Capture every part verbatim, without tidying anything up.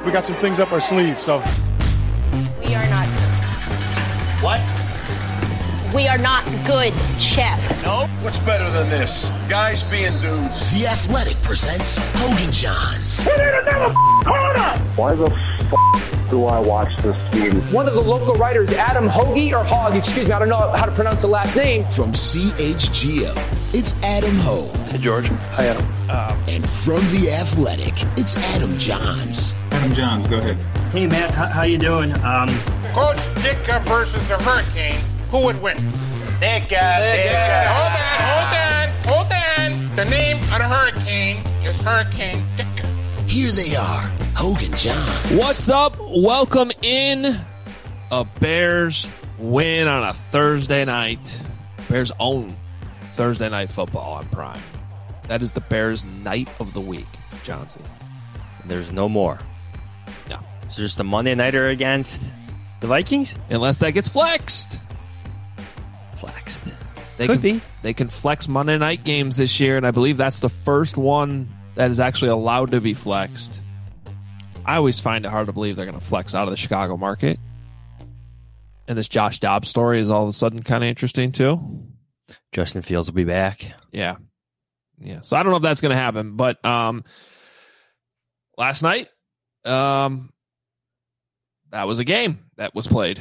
we got some things up our sleeve. So we are not. What? We are not good, Chef. No. What's better than this? Guys being dudes. The Athletic presents Hogan Johns. We need another corner. Why the f*** do I watch this team? One of the local writers, Adam Hoagie, or Hogg, excuse me, I don't know how to pronounce the last name. From C H G O, it's Adam Hogue. Hey, George. Hi, Adam. Um, and from The Athletic, it's Adam Johns. Adam Johns, go ahead. Hey, Matt, how, how you doing? Um, Coach Ditka versus the Hurricane. Who would win? Ditka, Ditka. Hold on, hold on, hold on. The name of the Hurricane is Hurricane Ditka. Here they are, Hogan Johns. What's up? Welcome in. A Bears win on a Thursday night. Bears own Thursday night football on Prime. That is the Bears night of the week, Johnson. There's no more. No. It's just a Monday nighter against the Vikings? Unless that gets flexed. Flexed. They Could can, be. They can flex Monday night games this year, and I believe that's the first one that is actually allowed to be flexed. I always find it hard to believe they're going to flex out of the Chicago market. And this Josh Dobbs story is all of a sudden kind of interesting, too. Justin Fields will be back. Yeah. Yeah. So I don't know if that's going to happen, but um, last night, um, that was a game that was played.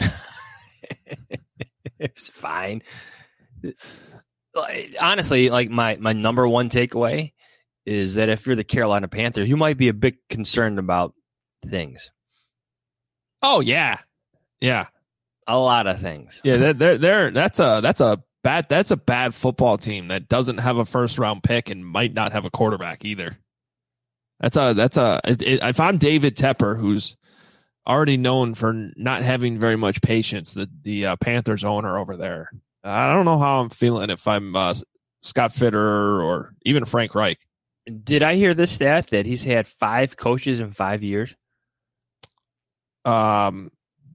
It's fine. Honestly, like my, my number one takeaway is that if you're the Carolina Panthers, you might be a bit concerned about things. Oh, yeah. Yeah. A lot of things. Yeah, they're, they're, they're, that's a that's a bad that's a bad football team that doesn't have a first round pick and might not have a quarterback either. That's a that's a it, it, if I'm David Tepper, who's already known for not having very much patience, the the uh, Panthers owner over there. I don't know how I'm feeling if I'm uh, Scott Fitterer or even Frank Reich. Did I hear this stat that he's had five coaches in five years? Um.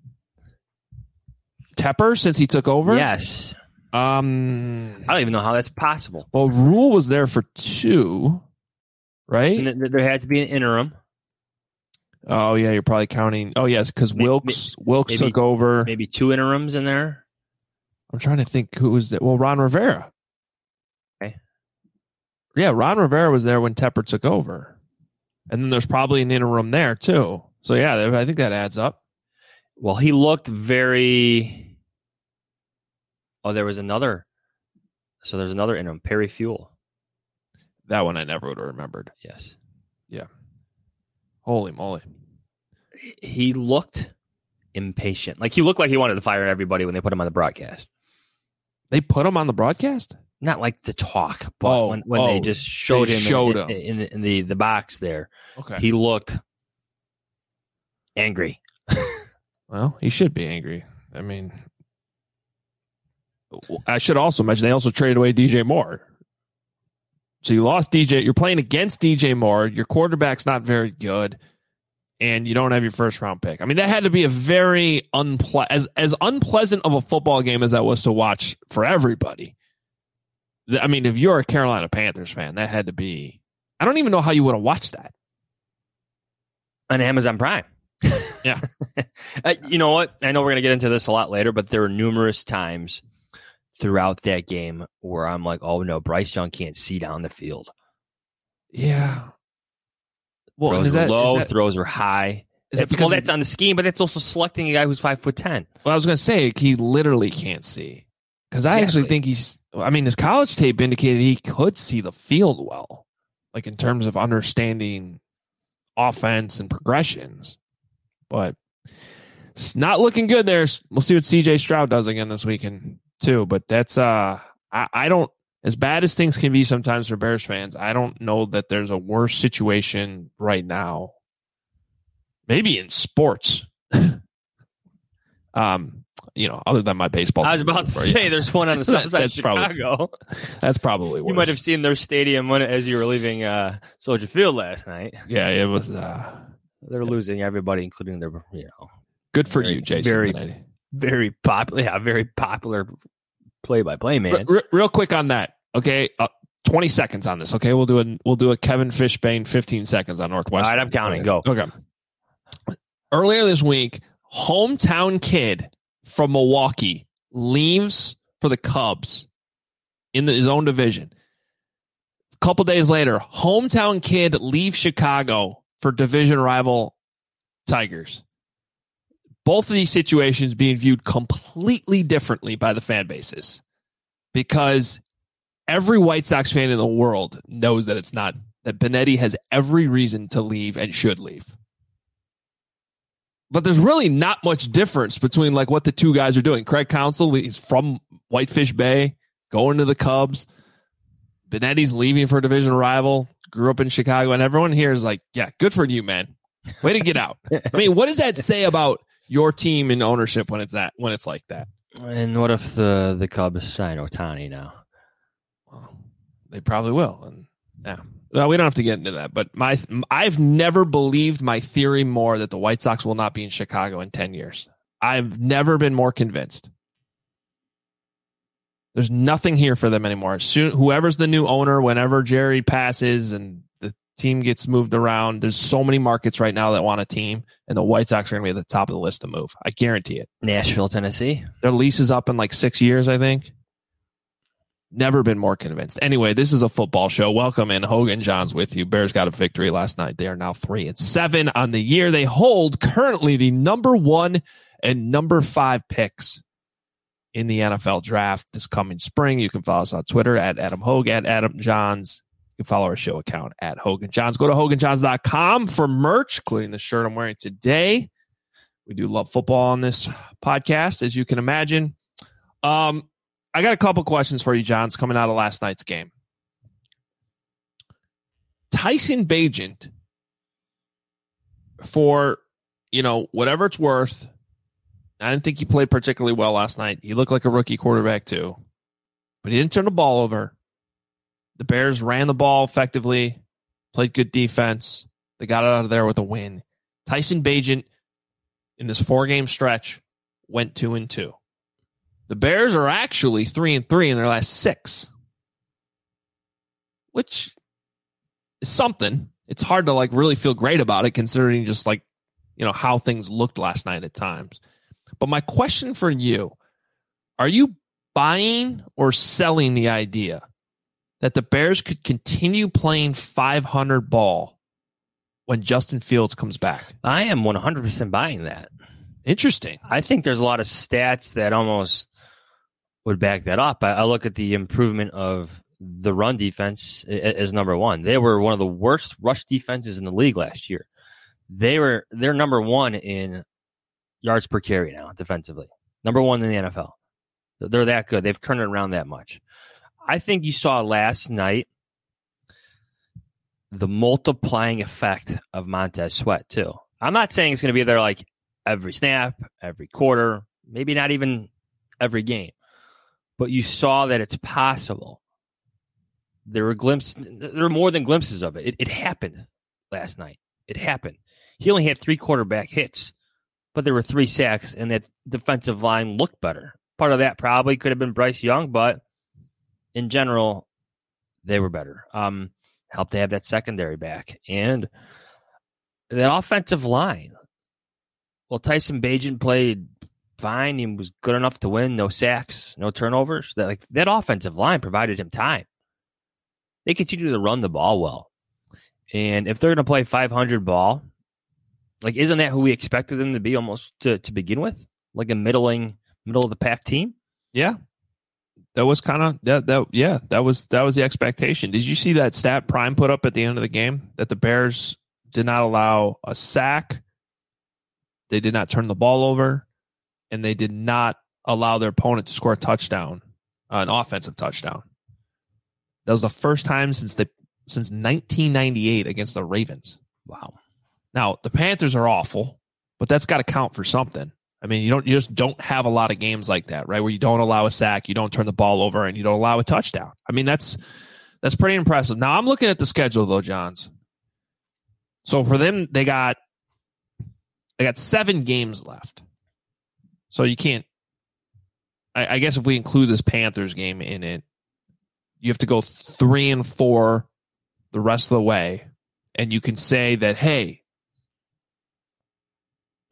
Tepper since he took over? Yes. Um, I don't even know how that's possible. Well, Rule was there for two, right? And th- there had to be an interim. Oh, yeah, you're probably counting. Oh, yes, because Wilkes maybe, Wilkes maybe, took over. Maybe two interims in there. I'm trying to think who was there. Well, Ron Rivera. Okay. Yeah, Ron Rivera was there when Tepper took over. And then there's probably an interim there, too. So, yeah, I think that adds up. Well, he looked very. Oh, there was another. So there's another interim, Perry Fuel. That one I never would have remembered. Yes. Yeah. Holy moly. He looked impatient. Like he looked like he wanted to fire everybody when they put him on the broadcast. They put him on the broadcast? Not like to talk, but oh, when, when oh, they just showed they him, showed in, him. in, in, in the, the box there. Okay. He looked angry. Well, he should be angry. I mean, I should also mention they also traded away D J Moore. So you lost D J. You're playing against D J Moore. Your quarterback's not very good, and you don't have your first round pick. I mean, that had to be a very unple- as as unpleasant of a football game as that was to watch for everybody. I mean, if you're a Carolina Panthers fan, that had to be. I don't even know how you would have watched that on Amazon Prime. Yeah. uh, you know what? I know we're going to get into this a lot later, but there were numerous times throughout that game where I'm like, oh, no, Bryce Young can't see down the field. Yeah. Well, throws is were that, low, is that, throws are high. Is that's, that well, that's on the scheme, but that's also selecting a guy who's five foot ten. Well, I was going to say he literally can't see. Because I exactly. actually think he's, I mean, his college tape indicated he could see the field well, like in terms of understanding offense and progressions. But it's not looking good there. We'll see what C J Stroud does again this weekend, too. But that's, uh, I, I don't, as bad as things can be sometimes for Bears fans, I don't know that there's a worse situation right now. Maybe in sports. um, you know, other than my baseball. I was about to say, there's one on the south side of Chicago. Probably, that's probably worse. You might have seen their stadium when, as you were leaving uh, Soldier Field last night. Yeah, it was. Uh, They're losing everybody, including their, you know. Good for very, you, Jason. Very, very popular. Yeah, very popular play-by-play man. R- r- real quick on that, okay. Uh, Twenty seconds on this, okay? We'll do a we'll do a Kevin Fishbane fifteen seconds on Northwestern. All right, I'm counting. Okay. Go. Okay. Earlier this week, hometown kid from Milwaukee leaves for the Cubs in the, his own division. A couple days later, hometown kid leaves Chicago for division rival Tigers. Both of these situations being viewed completely differently by the fan bases because every White Sox fan in the world knows that it's not, that Benetti has every reason to leave and should leave. But there's really not much difference between like what the two guys are doing. Craig Counsell, he's from Whitefish Bay, going to the Cubs. Benetti's leaving for a division rival, grew up in Chicago, and everyone here is like, yeah, good for you, man. Way to get out. I mean, what does that say about your team and ownership when it's that when it's like that? And what if the, the Cubs sign Ohtani now? Well, they probably will. And yeah. Well, we don't have to get into that, but my I've never believed my theory more that the White Sox will not be in Chicago in ten years. I've never been more convinced. There's nothing here for them anymore. Soon, whoever's the new owner, whenever Jerry passes and the team gets moved around, there's so many markets right now that want a team, and the White Sox are going to be at the top of the list to move. I guarantee it. Nashville, Tennessee. Their lease is up in like six years, I think. Never been more convinced. Anyway, this is a football show. Welcome in. Hogan Johns with you. Bears got a victory last night. They are now three and seven on the year. They hold currently the number one and number five picks in the N F L draft this coming spring. You can follow us on Twitter at Adam Hogue, at Adam Johns. You can follow our show account at Hogan Johns. Go to Hogan Johns dot com for merch, including the shirt I'm wearing today. We do love football on this podcast, as you can imagine. Um, I got a couple questions for you, Johns, coming out of last night's game. Tyson Bagent, for, you know, whatever it's worth, I didn't think he played particularly well last night. He looked like a rookie quarterback too, but he didn't turn the ball over. The Bears ran the ball effectively, played good defense. They got it out of there with a win. Tyson Bagent, in this four-game stretch, went two and two. The Bears are actually three and three in their last six, which is something. It's hard to like really feel great about it, considering just like, you know, how things looked last night at times. But my question for you, are you buying or selling the idea that the Bears could continue playing five hundred ball when Justin Fields comes back? I am one hundred percent buying that. Interesting. I think there's a lot of stats that almost would back that up. I, I look at the improvement of the run defense as number one. They were one of the worst rush defenses in the league last year. They were they're number one in yards per carry now defensively. Number one in the N F L. They're that good. They've turned it around that much. I think you saw last night the multiplying effect of Montez Sweat too. I'm not saying it's going to be there like every snap, every quarter, maybe not even every game. But you saw that it's possible. There were glimpses. There were more than glimpses of it. It, it happened last night. It happened. He only had three quarterback hits, but there were three sacks, and that defensive line looked better. Part of that probably could have been Bryce Young, but in general, they were better. Um, helped to have that secondary back. And that offensive line. Well, Tyson Bagent played fine. He was good enough to win. No sacks, no turnovers. That like that offensive line provided him time. They continue to run the ball well. And if they're going to play five hundred ball, like isn't that who we expected them to be almost to, to begin with? Like a middling, middle of the pack team? Yeah. That was kind of that that yeah, that was that was the expectation. Did you see that stat Prime put up at the end of the game that the Bears did not allow a sack? They did not turn the ball over, and they did not allow their opponent to score a touchdown, uh, an offensive touchdown. That was the first time since the since nineteen ninety-eight against the Ravens. Wow. Now, the Panthers are awful, but that's got to count for something. I mean, you don't you just don't have a lot of games like that, right? Where you don't allow a sack, you don't turn the ball over, and you don't allow a touchdown. I mean, that's that's pretty impressive. Now, I'm looking at the schedule though, Johns. So for them, they got they got seven games left. So you can't. I, I guess if we include this Panthers game in it, you have to go three and four the rest of the way, and you can say that, hey,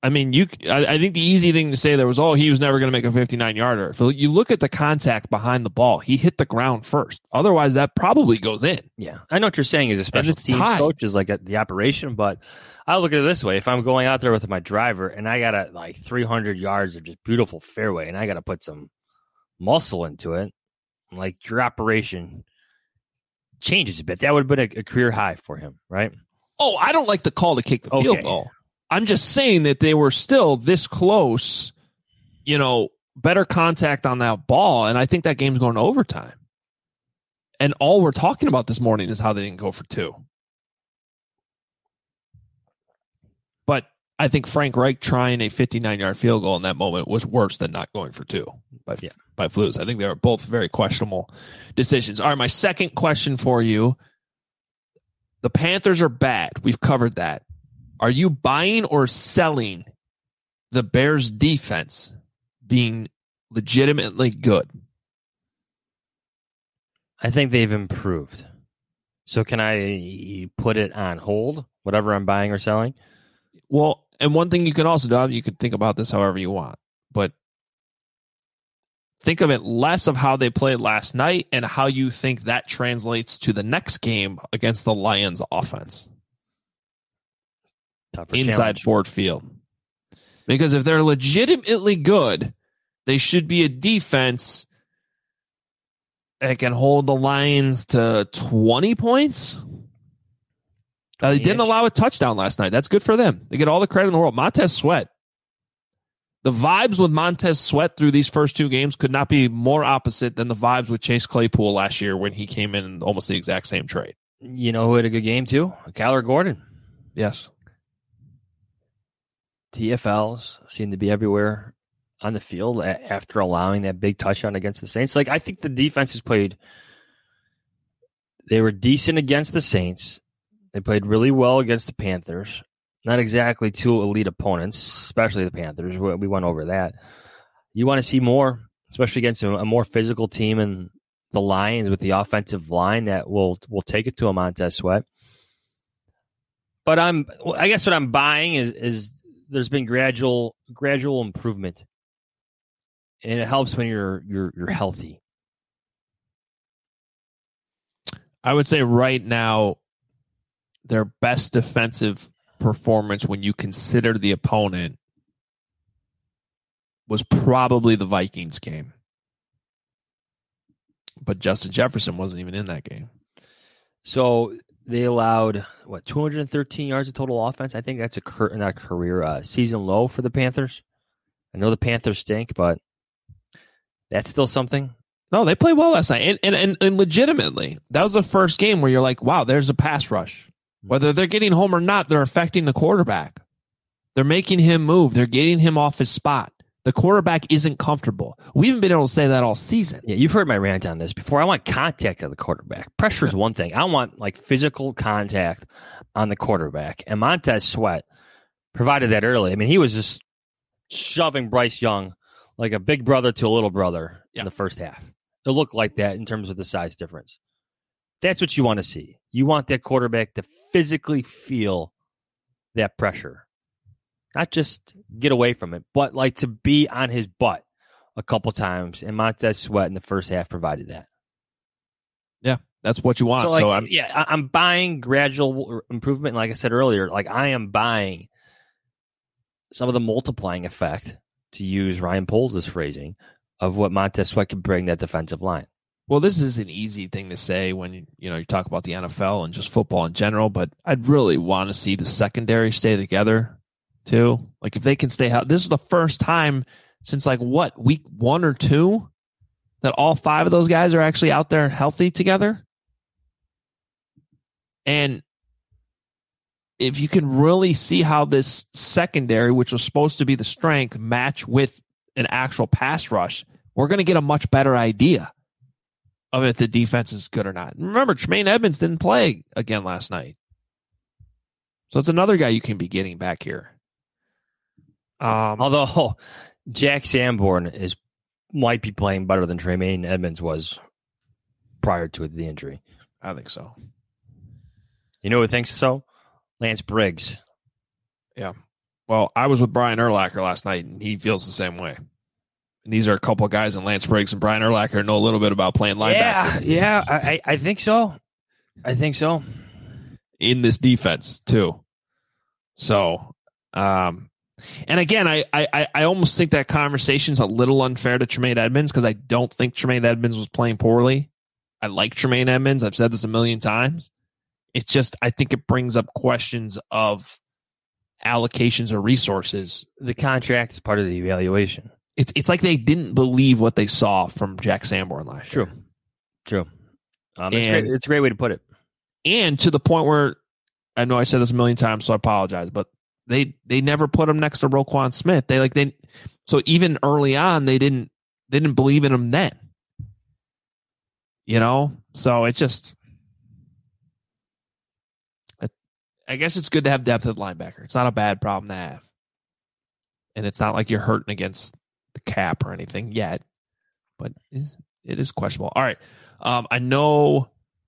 I mean, you. I, I think the easy thing to say there was, oh, he was never going to make a fifty-nine yarder. If you look at the contact behind the ball, he hit the ground first. Otherwise, that probably goes in. Yeah, I know what you're saying as a special teams tied. coach is like at the operation, but I look at it this way: if I'm going out there with my driver and I got a, like three hundred yards of just beautiful fairway, and I got to put some muscle into it, like your operation changes a bit. That would have been a, a career high for him, right? Oh, I don't like the call to kick the okay. field goal. I'm just saying that they were still this close, you know, better contact on that ball, and I think that game's going to overtime. And all we're talking about this morning is how they didn't go for two. But I think Frank Reich trying a fifty-nine-yard field goal in that moment was worse than not going for two by, yeah. by Flus. I think they were both very questionable decisions. All right, my second question for you. The Panthers are bad. We've covered that. Are you buying or selling the Bears' defense being legitimately good? I think they've improved. So can I put it on hold, whatever I'm buying or selling? Well, and one thing you can also do, you can think about this however you want, but think of it less of how they played last night and how you think that translates to the next game against the Lions offense. Tougher inside challenge. Ford Field. Because if they're legitimately good, they should be a defense that can hold the Lions to twenty points. Uh, they didn't allow a touchdown last night. That's good for them. They get all the credit in the world. Montez Sweat. The vibes with Montez Sweat through these first two games could not be more opposite than the vibes with Chase Claypool last year when he came in almost the exact same trade. You know who had a good game too? Kyler Gordon. Yes. T F Ls seem to be everywhere on the field after allowing that big touchdown against the Saints. Like, I think the defense has played. They were decent against the Saints. They played really well against the Panthers. Not exactly two elite opponents, especially the Panthers. We went over that. You want to see more, especially against a more physical team and the Lions with the offensive line that will will take it to a Montez Sweat. But I'm, I guess what I'm buying is is. There's been gradual gradual improvement, and it helps when you're you're you're healthy. I would say right now, their best defensive performance when you consider the opponent was probably the Vikings game. But Justin Jefferson wasn't even in that game. So they allowed, what, two hundred thirteen yards of total offense? I think that's a cur- not a career, uh, season low for the Panthers. I know the Panthers stink, but that's still something. No, they played well last night. And, and, and, and legitimately, that was the first game where you're like, wow, there's a pass rush. Whether they're getting home or not, they're affecting the quarterback. They're making him move. They're getting him off his spot. The quarterback isn't comfortable. We haven't been able to say that all season. Yeah, you've heard my rant on this before. I want contact of the quarterback. Pressure is one thing. I want like physical contact on the quarterback. And Montez Sweat provided that early. I mean, he was just shoving Bryce Young like a big brother to a little brother yeah. in the first half. It looked like that in terms of the size difference. That's what you want to see. You want that quarterback to physically feel that pressure. Not just get away from it, but like to be on his butt a couple times. And Montez Sweat in the first half provided that. Yeah, that's what you want. So, like, so I'm, yeah, I'm buying gradual improvement. Like I said earlier, like I am buying some of the multiplying effect, to use Ryan Poles' phrasing, of what Montez Sweat could bring that defensive line. Well, this is an easy thing to say when you, you know you talk about the N F L and just football in general, but I'd really want to see the secondary stay together too. Like if they can stay out, this is the first time since like what, week one or two that all five of those guys are actually out there healthy together. And if you can really see how this secondary, which was supposed to be the strength, match with an actual pass rush, we're going to get a much better idea of if the defense is good or not. Remember, Tremaine Edmonds didn't play again last night. So it's another guy you can be getting back here. Um, Although Jack Sanborn is might be playing better than Tremaine Edmonds was prior to the injury. I think so. You know who thinks so? Lance Briggs. Yeah. Well, I was with Brian Urlacher last night, and he feels the same way. And these are a couple of guys, and Lance Briggs and Brian Urlacher know a little bit about playing linebacker. Yeah, yeah, I, I think so. I think so. In this defense, too. So, um, and again, I, I, I almost think that conversation's a little unfair to Tremaine Edmonds because I don't think Tremaine Edmonds was playing poorly. I like Tremaine Edmonds. I've said this a million times. It's just, I think it brings up questions of allocations of resources. The contract is part of the evaluation. It's it's like they didn't believe what they saw from Jack Sanborn last True. year. True. Um, And- it's, great. It's a great way to put it. And to the point where, I know I said this a million times, so I apologize, but they they never put him next to Roquan Smith. They like they so even early on they didn't they didn't believe in him then. You know, so it's just. I, I guess it's good to have depth at linebacker. It's not a bad problem to have, and it's not like you're hurting against the cap or anything yet, but is it is questionable. All right, um, I know.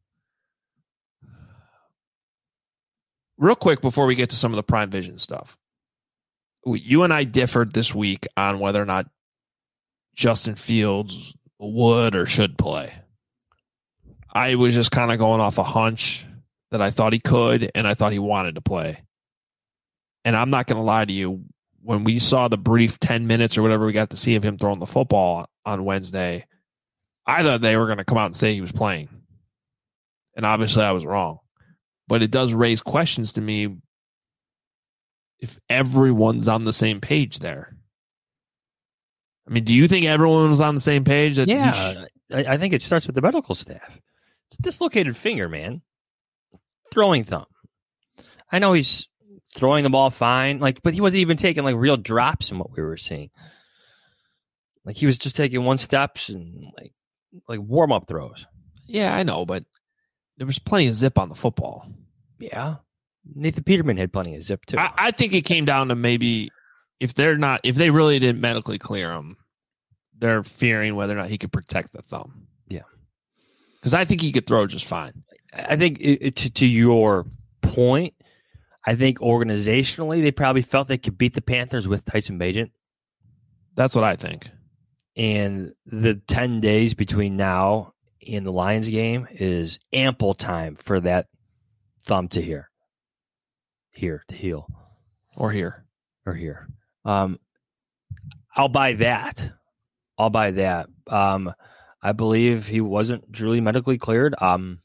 Real quick before we get to some of the Prime Vision stuff, you and I differed this week on whether or not Justin Fields would or should play. I was just kind of going off a hunch that I thought he could and I thought he wanted to play. And I'm not going to lie to you, when we saw the brief ten minutes or whatever we got to see of him throwing the football on Wednesday, I thought they were going to come out and say he was playing. And obviously I was wrong. But it does raise questions to me if everyone's on the same page there. I mean, do you think everyone was on the same page? That Yeah, sh- I, I think it starts with the medical staff. It's a dislocated finger, man. Throwing thumb. I know he's throwing the ball fine, like, but he wasn't even taking like real drops in what we were seeing. Like he was just taking one steps and like like warm up throws. Yeah, I know, but there was plenty of zip on the football. Yeah, Nathan Peterman had plenty of zip too. I, I think it came down to maybe if they're not, if they really didn't medically clear him, they're fearing whether or not he could protect the thumb. Yeah, because I think he could throw just fine. I think it, it, to, to your point, I think organizationally they probably felt they could beat the Panthers with Tyson Bagent. That's what I think. And the ten days between now and the Lions game is ample time for that thumb to heal. Here to heal. Or here. Or here. Um, I'll buy that. I'll buy that. Um, I believe he wasn't truly medically cleared. Um,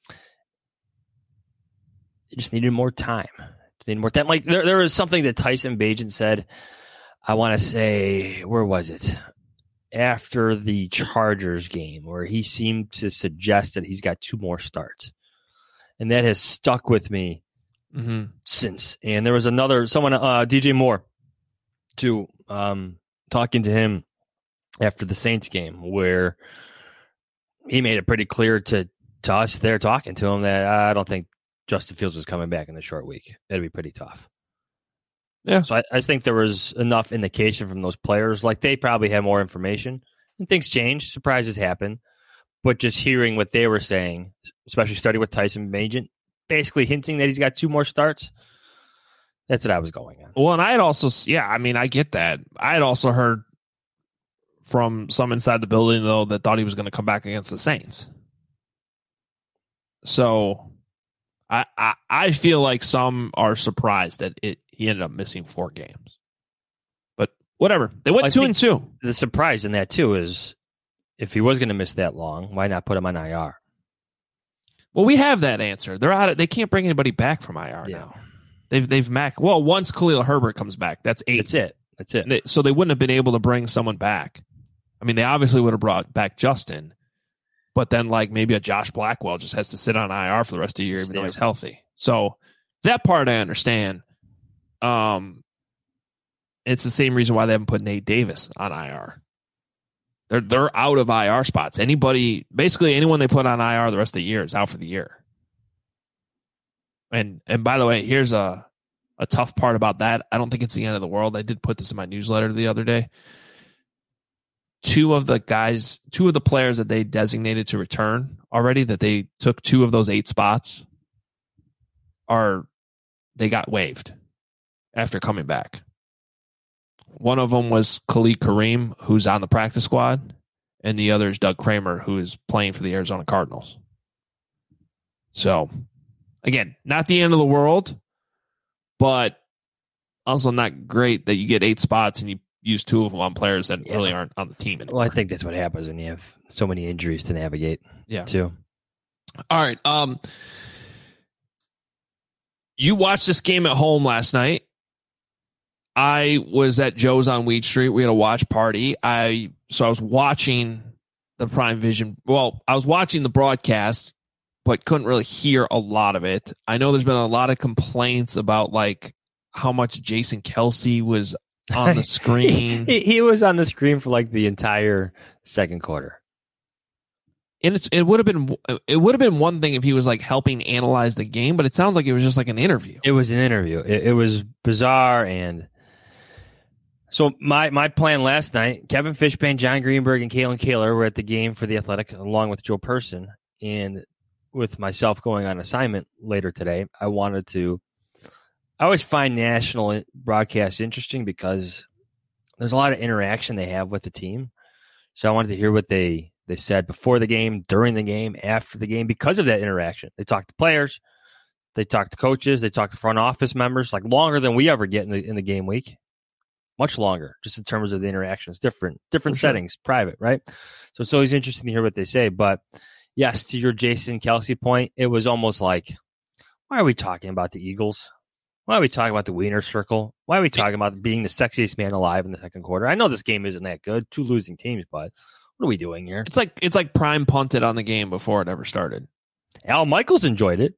he just needed more time. Just needed more time. Like there, there was something that Tyson Bagent said. I want to say, where was it? After the Chargers game, where he seemed to suggest that he's got two more starts. And that has stuck with me mm-hmm. since. And there was another, someone, uh, D J Moore, too, um, talking to him after the Saints game, where he made it pretty clear to, to us there talking to him that uh, I don't think Justin Fields was coming back in the short week. That'd be pretty tough. Yeah. So I, I think there was enough indication from those players. Like they probably had more information and things change. Surprises happen. But just hearing what they were saying, especially starting with Tyson Bagent, basically hinting that he's got two more starts. That's what I was going on. Well, and I had also, yeah, I mean, I get that. I had also heard from some inside the building, though, that thought he was going to come back against the Saints. So I, I, I feel like some are surprised that it he ended up missing four games. But whatever. They went I two and two. The surprise in that, too, is if he was going to miss that long, why not put him on I R? Well, we have that answer. They're out of, they can't bring anybody back from I R Yeah. now. They've they've mac well, once Khalil Herbert comes back, that's eight. That's it. That's it. They, so they wouldn't have been able to bring someone back. I mean, they obviously would have brought back Justin, but then like maybe a Josh Blackwell just has to sit on I R for the rest of the year, even though he's healthy. So that part I understand. Um, it's the same reason why they haven't put Nate Davis on I R. They're they're out of I R spots. Anybody, basically anyone they put on I R the rest of the year is out for the year. And and by the way, here's a a tough part about that. I don't think it's the end of the world. I did put this in my newsletter the other day. Two of the guys, two of the players that they designated to return already, that they took two of those eight spots, are they got waived after coming back. One of them was Khalid Kareem, who's on the practice squad, and the other is Doug Kramer, who is playing for the Arizona Cardinals. So, again, not the end of the world, but also not great that you get eight spots and you use two of them on players that yeah. really aren't on the team anymore. Well, I think that's what happens when you have so many injuries to navigate. Yeah. Too. All right. Um, you watched this game at home last night. I was at Joe's on Weed Street. We had a watch party. I so I was watching the Prime Vision. Well, I was watching the broadcast, but couldn't really hear a lot of it. I know there's been a lot of complaints about like how much Jason Kelce was on the screen. he, he was on the screen for like the entire second quarter. And it's, it would have been it would have been one thing if he was like helping analyze the game, but it sounds like it was just like an interview. It was an interview. It, it was bizarre. And so my my plan last night, Kevin Fishbane, John Greenberg, and Kalen Kaler were at the game for the Athletic, along with Joe Person. And with myself going on assignment later today, I wanted to. I always find national broadcasts interesting because there's a lot of interaction they have with the team. So I wanted to hear what they. They said before the game, during the game, after the game, because of that interaction. They talk to players, they talk to coaches, they talk to front office members, like longer than we ever get in the in the game week. Much longer, just in terms of the interactions. Different, different sure. settings, private, right? So it's always interesting to hear what they say. But yes, to your Jason Kelce point, it was almost like, why are we talking about the Eagles? Why are we talking about the Wiener Circle? Why are we talking about being the sexiest man alive in the second quarter? I know this game isn't that good, two losing teams, but what are we doing here? It's like it's like Prime punted on the game before it ever started. Al Michaels enjoyed it.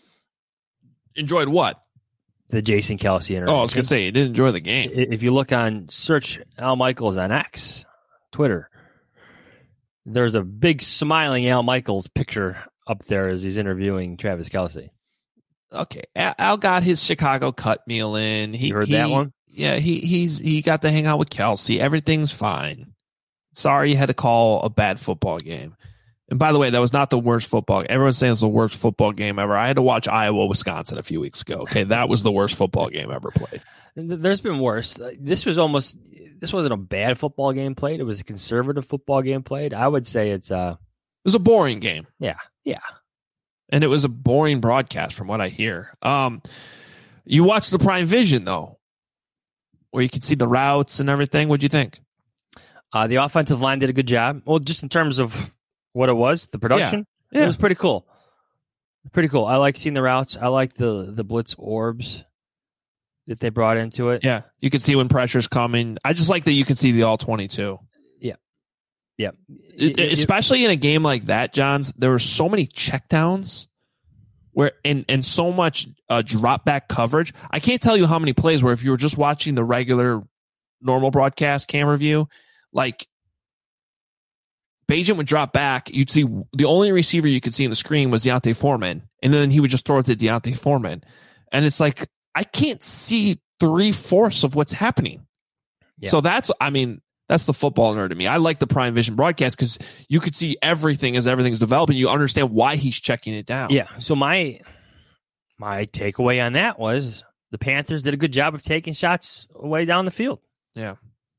Enjoyed what? The Jason Kelce interaction. Oh, I was going to say, he did enjoy the game. If you look on, search Al Michaels on X, Twitter, there's a big smiling Al Michaels picture up there as he's interviewing Travis Kelce. Okay. Al got his Chicago cut meal in. He you heard he, that one? Yeah, he he's he got to hang out with Kelce. Everything's fine. Sorry you had to call a bad football game. And by the way, that was not the worst football. Everyone's saying it's the worst football game ever. I had to watch Iowa, Wisconsin a few weeks ago. Okay, that was the worst football game ever played. There's been worse. This was almost, this wasn't a bad football game played. It was a conservative football game played. I would say it's a... It was a boring game. Yeah, yeah. And it was a boring broadcast from what I hear. Um, you watched the Prime Vision, though, where you could see the routes and everything. What'd you think? Uh, the offensive line did a good job. Well, just in terms of what it was, the production, yeah. Yeah. It was pretty cool. Pretty cool. I like seeing the routes. I like the the blitz orbs that they brought into it. Yeah, you can see when pressure's coming. I just like that you can see the all twenty-two. Yeah, yeah. It, it, especially in a game like that, Johns, there were so many checkdowns where and and so much uh, drop back coverage. I can't tell you how many plays where if you were just watching the regular normal broadcast camera view, like Bagent would drop back, you'd see the only receiver you could see in the screen was Deontay Foreman, and then he would just throw it to Deontay Foreman. And it's like, I can't see three-fourths of what's happening. Yeah. So that's, I mean, that's the football nerd to me. I like the Prime Vision broadcast because you could see everything as everything's developing. You understand why he's checking it down. Yeah, so my my takeaway on that was the Panthers did a good job of taking shots way down the field. Yeah.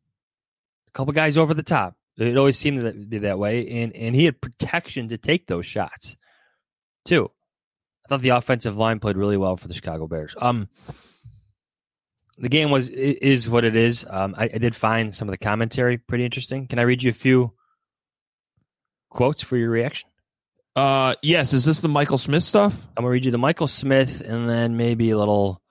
A couple guys over the top. It always seemed to be that way, and and he had protection to take those shots, too. I thought the offensive line played really well for the Chicago Bears. Um, the game was is what it is. Um, I, I did find some of the commentary pretty interesting. Can I read you a few quotes for your reaction? Uh, yes. Is this the Michael Smith stuff? I'm gonna read you the Michael Smith, and then maybe a little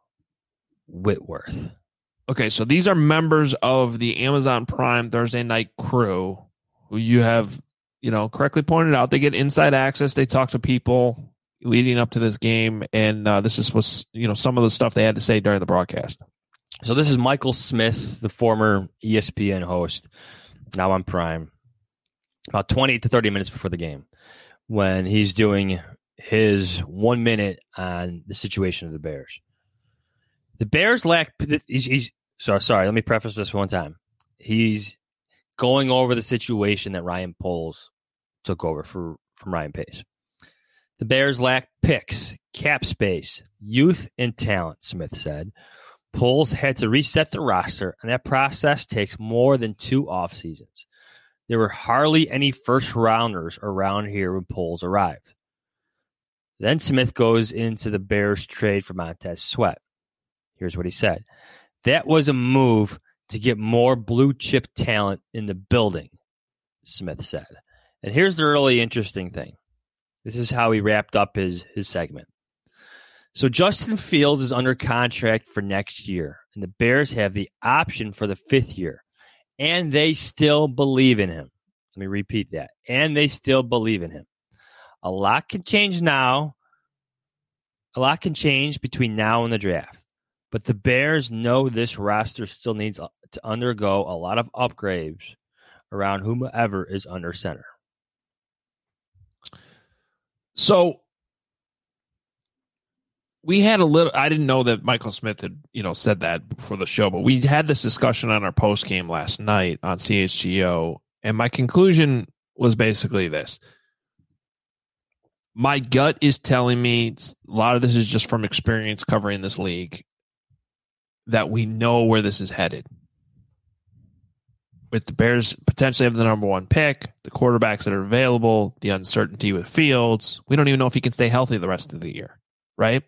Whitworth. Okay, so these are members of the Amazon Prime Thursday night crew who you have, you know, correctly pointed out. They get inside access. They talk to people leading up to this game, and uh, this is what's, you know, some of the stuff they had to say during the broadcast. So this is Michael Smith, the former E S P N host, now on Prime, about twenty to thirty minutes before the game, when he's doing his one minute on the situation of the Bears. The Bears lack. He's, he's sorry. Sorry. Let me preface this one time. He's going over the situation that Ryan Poles took over for from Ryan Pace. The Bears lack picks, cap space, youth, and talent. Smith said, Poles had to reset the roster, and that process takes more than two off seasons. There were hardly any first-rounders around here when Poles arrived. Then Smith goes into the Bears trade for Montez Sweat. Here's what he said. That was a move to get more blue-chip talent in the building, Smith said. And here's the really interesting thing. This is how he wrapped up his, his segment. So Justin Fields is under contract for next year, and the Bears have the option for the fifth year, and they still believe in him. Let me repeat that. And they still believe in him. A lot can change now. A lot can change between now and the draft. But the Bears know this roster still needs to undergo a lot of upgrades around whomever is under center. So we had a little, I didn't know that Michael Smith had, you know, said that before the show, but we had this discussion on our post game last night on C H G O. And my conclusion was basically this. My gut is telling me, a lot of this is just from experience covering this league, that we know where this is headed. With the Bears potentially have the number one pick, the quarterbacks that are available, the uncertainty with Fields, we don't even know if he can stay healthy the rest of the year, right?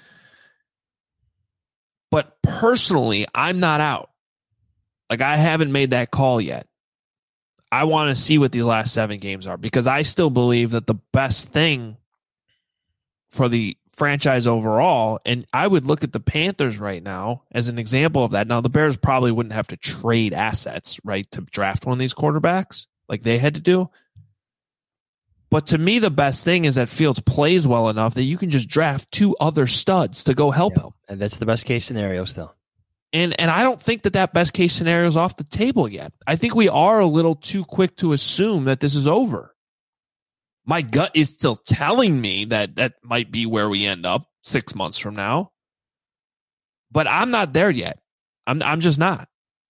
But personally, I'm not out. Like, I haven't made that call yet. I want to see what these last seven games are, because I still believe that the best thing for the franchise overall, and I would look at the Panthers right now as an example of that. Now, the Bears probably wouldn't have to trade assets, right, to draft one of these quarterbacks like they had to do. But to me, the best thing is that Fields plays well enough that you can just draft two other studs to go help yeah, him. And that's the best case scenario still. And and I don't think that that best case scenario is off the table yet. I think we are a little too quick to assume that this is over. My gut is still telling me that that might be where we end up six months from now. But I'm not there yet. I'm I'm just not.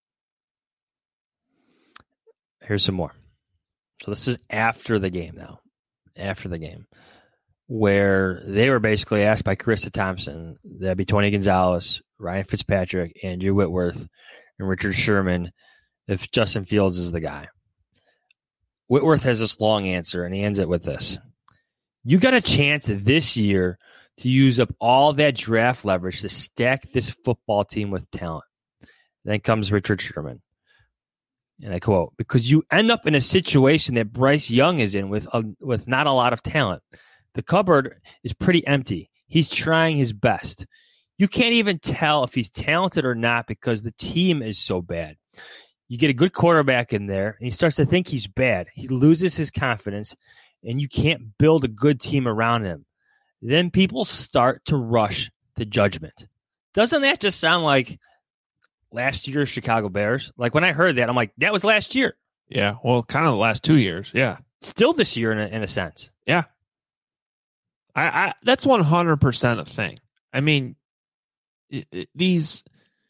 Here's some more. So this is after the game now. After the game. Where they were basically asked by Carissa Thompson, that'd be Tony Gonzalez, Ryan Fitzpatrick, Andrew Whitworth, and Richard Sherman, if Justin Fields is the guy. Whitworth has this long answer, and he ends it with this. You got a chance this year to use up all that draft leverage to stack this football team with talent. Then comes Richard Sherman. And I quote, because you end up in a situation that Bryce Young is in with, a, with not a lot of talent. The cupboard is pretty empty. He's trying his best. You can't even tell if he's talented or not because the team is so bad. You get a good quarterback in there, and he starts to think he's bad. He loses his confidence, and you can't build a good team around him. Then people start to rush to judgment. Doesn't that just sound like last year's Chicago Bears? Like, when I heard that, I'm like, that was last year. Yeah, well, kind of the last two years, yeah. Still this year in a, in a sense. Yeah. I, I that's one hundred percent a thing. I mean, it, it, these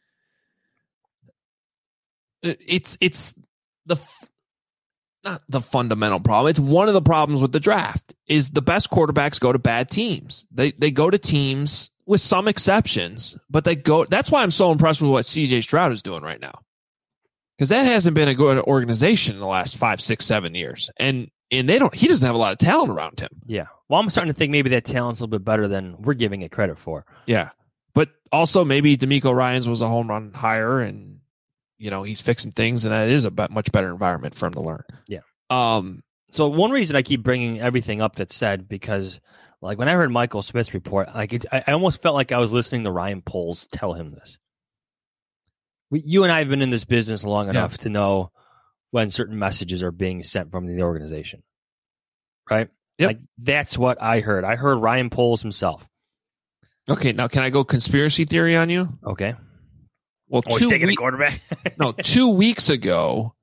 it, it's it's the not the fundamental problem. It's one of the problems with the draft is the best quarterbacks go to bad teams. They they go to teams with some exceptions, but they go. That's why I'm so impressed with what C J Stroud is doing right now, because that hasn't been a good organization in the last five, six, seven years, and. And they don't. He doesn't have a lot of talent around him. Yeah. Well, I'm starting to think maybe that talent's a little bit better than we're giving it credit for. Yeah. But also maybe DeMeco Ryans was a home run hire, and you know he's fixing things, and that is a much better environment for him to learn. Yeah. Um. So one reason I keep bringing everything up that's said, because like when I heard Michael Smith's report, like it, I almost felt like I was listening to Ryan Poles tell him this. We, you and I have been in this business long enough yeah. to know when certain messages are being sent from the organization, right? Yep. Like that's what I heard. I heard Ryan Poles himself. Okay, now can I go conspiracy theory on you? Okay. Well, oh, two he's taking we- a quarterback. no, two weeks ago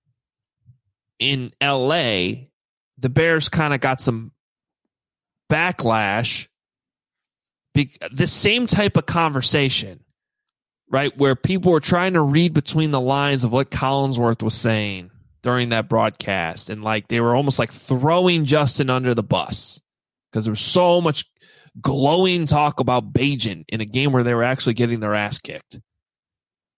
in L A, the Bears kind of got some backlash. Be- the same type of conversation. Right, where people were trying to read between the lines of what Collinsworth was saying during that broadcast. And like they were almost like throwing Justin under the bus because there was so much glowing talk about Bajan in a game where they were actually getting their ass kicked.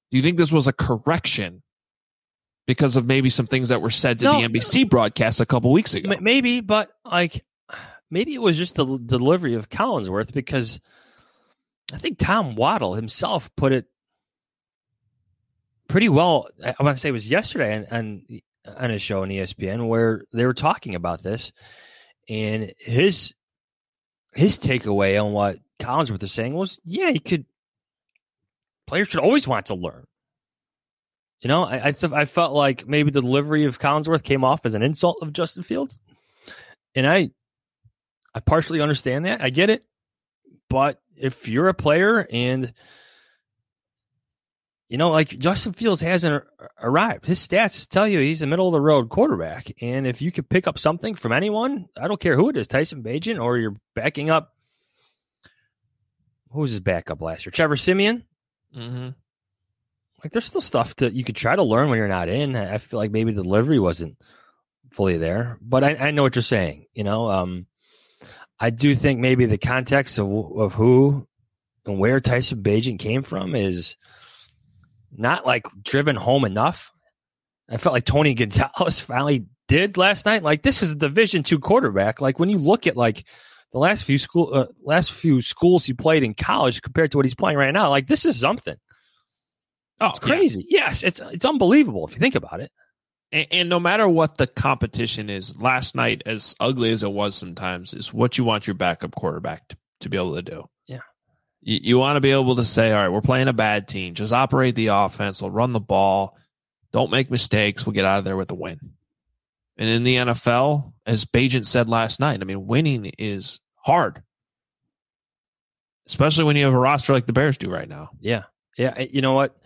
Do you think this was a correction because of maybe some things that were said to No. the N B C broadcast a couple weeks ago? M- Maybe, but like maybe it was just the, the delivery of Collinsworth, because I think Tom Waddle himself put it pretty well. I want to say it was yesterday on, on, on his show on E S P N where they were talking about this, and his his takeaway on what Collinsworth is saying was, yeah, you could. Players should always want to learn. You know, I I, th- I felt like maybe the delivery of Collinsworth came off as an insult of Justin Fields, and I I partially understand that. I get it, but if you're a player and you know, like Justin Fields hasn't arrived, his stats tell you he's a middle of the road quarterback, and if you could pick up something from anyone, I don't care who it is, Tyson Bagent, or you're backing up. Who was his backup last year? Trevor Siemian. Mm-hmm. Like, there's still stuff that you could try to learn when you're not in. I feel like maybe the delivery wasn't fully there, but I, I know what you're saying. You know, um, I do think maybe the context of of who and where Tyson Bagent came from is not like driven home enough. I felt like Tony Gonzalez finally did last night. Like, this is a Division two quarterback. Like, when you look at like the last few school, uh, last few schools he played in college compared to what he's playing right now, like, this is something. Oh, it's crazy. Yeah. Yes, it's it's unbelievable if you think about it. And, and no matter what the competition is, last night, as ugly as it was sometimes, is what you want your backup quarterback to, to be able to do. Yeah. You, you want to be able to say, all right, we're playing a bad team. Just operate the offense. We'll run the ball. Don't make mistakes. We'll get out of there with a win. And in the N F L, as Bagent said last night, I mean, winning is hard, especially when you have a roster like the Bears do right now. Yeah. Yeah. You know what?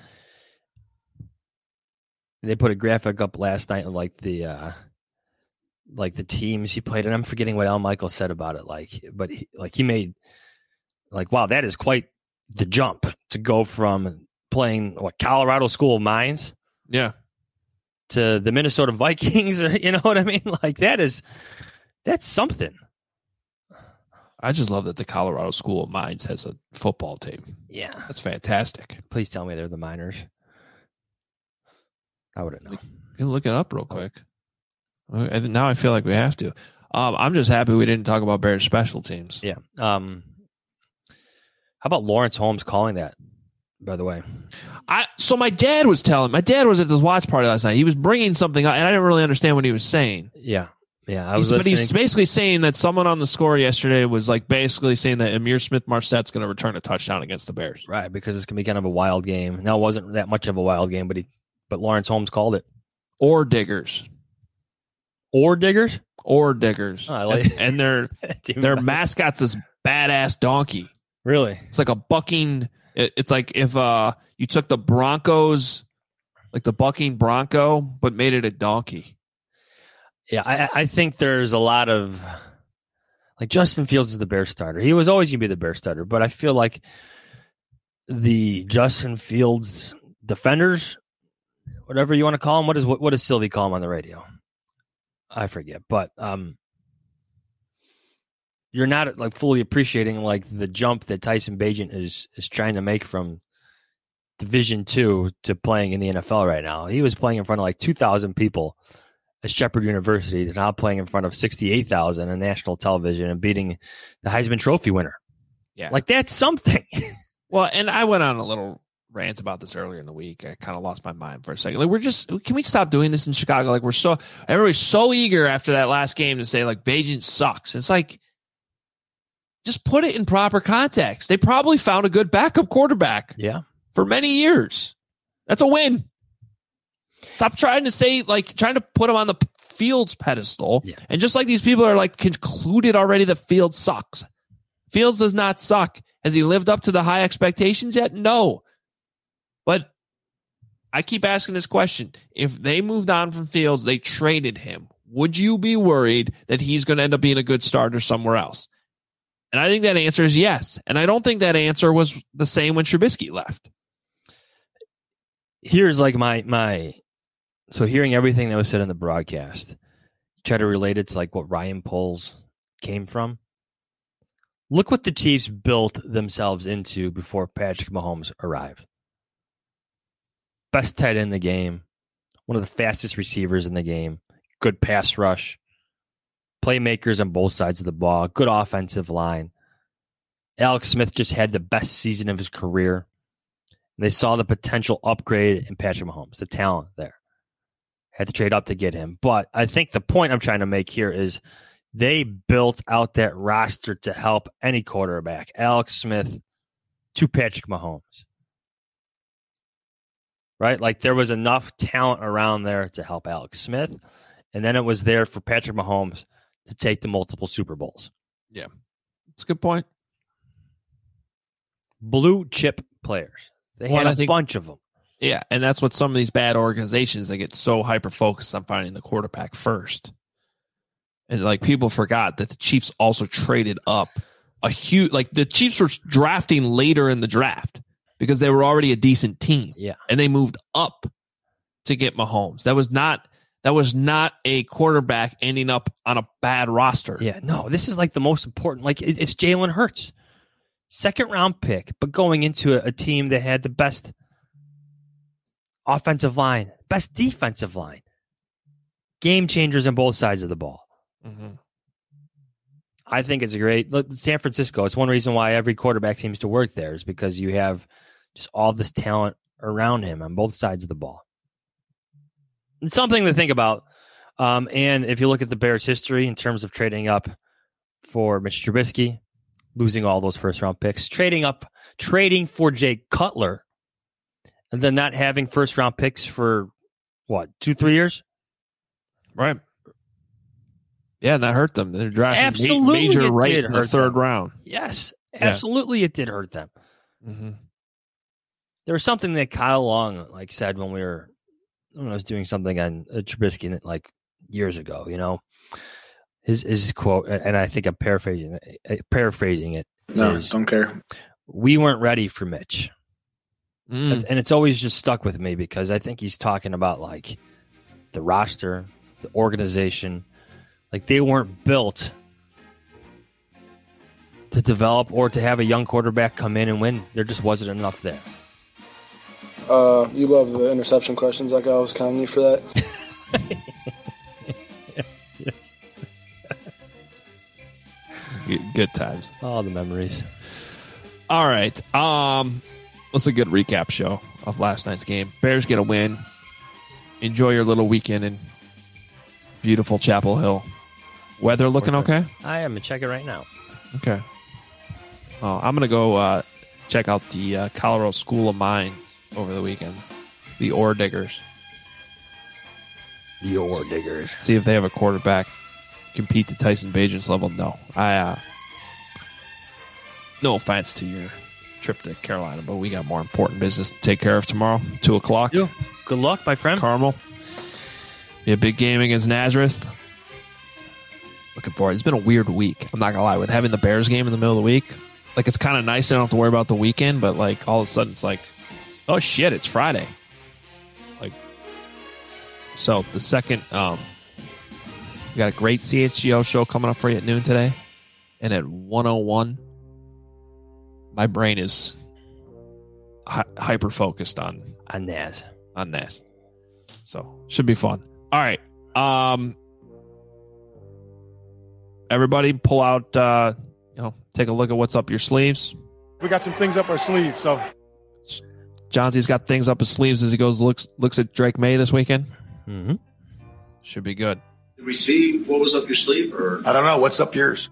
They put a graphic up last night of like the uh, like the teams he played, and I'm forgetting what Al Michaels said about it. Like, but he, like he made like, wow, that is quite the jump to go from playing what Colorado School of Mines, yeah, to the Minnesota Vikings, or you know what I mean? Like, that is that's something. I just love that the Colorado School of Mines has a football team. Yeah, that's fantastic. Please tell me they're the Miners. I wouldn't know. You can look it up real quick. Now I feel like we have to. Um, I'm just happy we didn't talk about Bears special teams. Yeah. Um, how about Lawrence Holmes calling that, by the way? I So my dad was telling, my dad was at this watch party last night. He was bringing something up, and I didn't really understand what he was saying. Yeah. Yeah. I was he's, but listening. he's basically saying that someone on the score yesterday was like basically saying that Amir Smith-Marsette's going to return a touchdown against the Bears. Right, because it's going to be kind of a wild game. Now, it wasn't that much of a wild game, but he, but Lawrence Holmes called it. Or Diggers. Or Diggers? Or Diggers. Oh, I like and, and their their mascot's this badass donkey. Really? It's like a bucking. It, it's like if uh you took the Broncos, like the bucking Bronco, but made it a donkey. Yeah, I, I think there's a lot of like Justin Fields is the Bears starter. He was always going to be the Bears starter, but I feel like the Justin Fields defenders, whatever you want to call them, what is what, what does Sylvie call them on the radio? I forget, but um, you're not like fully appreciating like the jump that Tyson Bagent is is trying to make from Division Two to playing in the N F L right now. He was playing in front of like two thousand people at Shepherd University, to now playing in front of sixty-eight thousand on national television and beating the Heisman Trophy winner. Yeah, like that's something. Well, and I went on a little rant about this earlier in the week. I kind of lost my mind for a second. Like, we're just, can we stop doing this in Chicago? Like, we're so, everybody's so eager after that last game to say, like, Bagent sucks. It's like, just put it in proper context. They probably found a good backup quarterback. Yeah. For many years. That's a win. Stop trying to say, like, trying to put him on the Fields pedestal. Yeah. And just like these people are, like, concluded already that Fields sucks. Fields does not suck. Has he lived up to the high expectations yet? No. But I keep asking this question. If they moved on from Fields, they traded him, would you be worried that he's going to end up being a good starter somewhere else? And I think that answer is yes. And I don't think that answer was the same when Trubisky left. Here's like my, my, so hearing everything that was said in the broadcast, try to relate it to like what Ryan Poles came from. Look what the Chiefs built themselves into before Patrick Mahomes arrived. best tight end in the game, one of the fastest receivers in the game, good pass rush, playmakers on both sides of the ball, good offensive line. Alex Smith just had the best season of his career. They saw the potential upgrade in Patrick Mahomes, the talent there. Had to trade up to get him. But I think the point I'm trying to make here is they built out that roster to help any quarterback, Alex Smith to Patrick Mahomes. Right? Like there was enough talent around there to help Alex Smith. And then it was there for Patrick Mahomes to take the multiple Super Bowls. Yeah. That's a good point. Blue chip players. They Well, had a I think- bunch of them. Yeah, and that's what some of these bad organizations, they get so hyper focused on finding the quarterback first. And like people forgot that the Chiefs also traded up a huge, like the Chiefs were drafting later in the draft because they were already a decent team. Yeah. And they moved up to get Mahomes. That was not that was not a quarterback ending up on a bad roster. Yeah, no, this is like the most important. Like it, it's Jalen Hurts, second round pick, but going into a, a team that had the best offensive line, best defensive line, game changers on both sides of the ball. Mm-hmm. I think it's a great look. San Francisco. It's one reason why every quarterback seems to work there is because you have just all this talent around him on both sides of the ball. It's something to think about. Um, and if you look at the Bears' history in terms of trading up for Mitch Trubisky, losing all those first round picks, trading up, trading for Jay Cutler, and then not having first round picks for what, two, three years? Right. Yeah, and that hurt them. They're drafting Absolutely major it right did in the hurt third them. round. Yes, absolutely it did hurt them. Mm-hmm. There was something that Kyle Long like said when we were, when I was doing something on uh, Trubisky like years ago, you know, his his quote, and I think I'm paraphrasing it, paraphrasing it. No, is, don't care. We weren't ready for Mitch. Mm. And it's always just stuck with me because I think he's talking about like the roster, the organization. Like they weren't built to develop or to have a young quarterback come in and win. There just wasn't enough there. Uh, you love the interception questions like I was counting you for that. Yes. Good times. All the memories. All right. Um, let's a good recap show of last night's game. Bears get a win. Enjoy your little weekend in beautiful Chapel Hill. Weather looking okay? I am. Check it right now. Okay. Oh, I'm going to go uh, check out the uh, Colorado School of Mines over the weekend. The Ore Diggers. The Ore Diggers. See if they have a quarterback compete to Tyson Bagent's level. No. I. Uh, no offense to your trip to Carolina, but we got more important business to take care of tomorrow. Two o'clock. Yeah. Good luck, my friend. Carmel. Be a big game against Nazareth. Looking forward. It's been a weird week. I'm not going to lie. With having the Bears game in the middle of the week, like it's kind of nice. I don't have to worry about the weekend, but like all of a sudden it's like, oh shit, it's Friday. Like, so the second, um, we got a great C H G O show coming up for you at noon today. And at one oh one, my brain is hi- hyper focused on on Naz. On Naz. So should be fun. All right. Um, everybody pull out, uh, you know, take a look at what's up your sleeves. We got some things up our sleeves, so. Johnson's got things up his sleeves as he goes looks looks at Drake May this weekend. Mm-hmm. Should be good. Did we see what was up your sleeve? Or I don't know. What's up yours?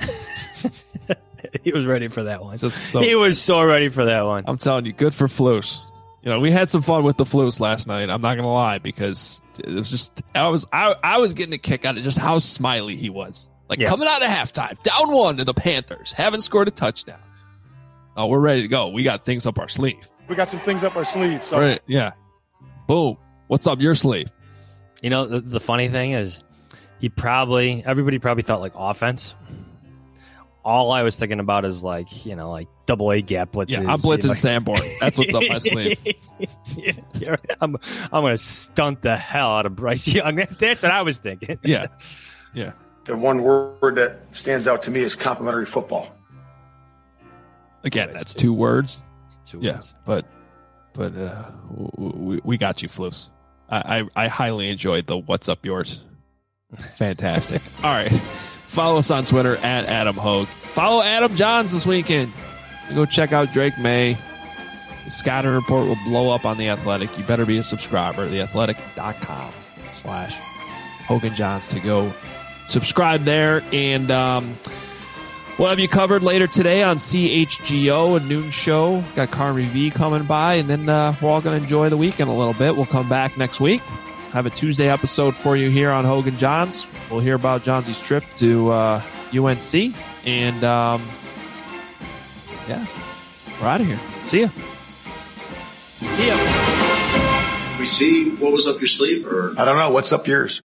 He was ready for that one. Just so, he was so ready for that one. I'm telling you, good for Flus. You know, we had some fun with the Flus last night. I'm not gonna lie, because it was just I was I I was getting a kick out of just how smiley he was. Like Yeah. coming out of halftime, down one to the Panthers, haven't scored a touchdown. Oh, we're ready to go. We got things up our sleeve. We got some things up our sleeve, so. Right? Yeah. Boom. What's up your sleeve? You know, the, the funny thing is, he probably everybody probably thought like offense. All I was thinking about is like, you know, like double A gap blitzes. Yeah, I'm blitzing like, Sanborn. That's what's up my sleeve. yeah, you're right. I'm I'm gonna stunt the hell out of Bryce Young. That's what I was thinking. Yeah. Yeah. The one word that stands out to me is complimentary football. Again, that's two words. It's two Yeah, words. but but uh, we, we got you, Floos. I, I, I highly enjoyed the What's Up Yours. Fantastic. All right. Follow us on Twitter at Adam Hogue. Follow Adam Johns this weekend. Go check out Drake May. The scouting report will blow up on The Athletic. You better be a subscriber. theathletic.com slash Hogan Johns to go subscribe there. And um, we'll have you covered later today on C H G O, a noon show. Got Carmi V coming by. And then uh, we're all going to enjoy the weekend a little bit. We'll come back next week. Have a Tuesday episode for you here on Hogan Johns. We'll hear about Johnsy's trip to uh, U N C. And, um, yeah, we're out of here. See ya. See ya. We see what was up your sleeve, or I don't know. What's up yours?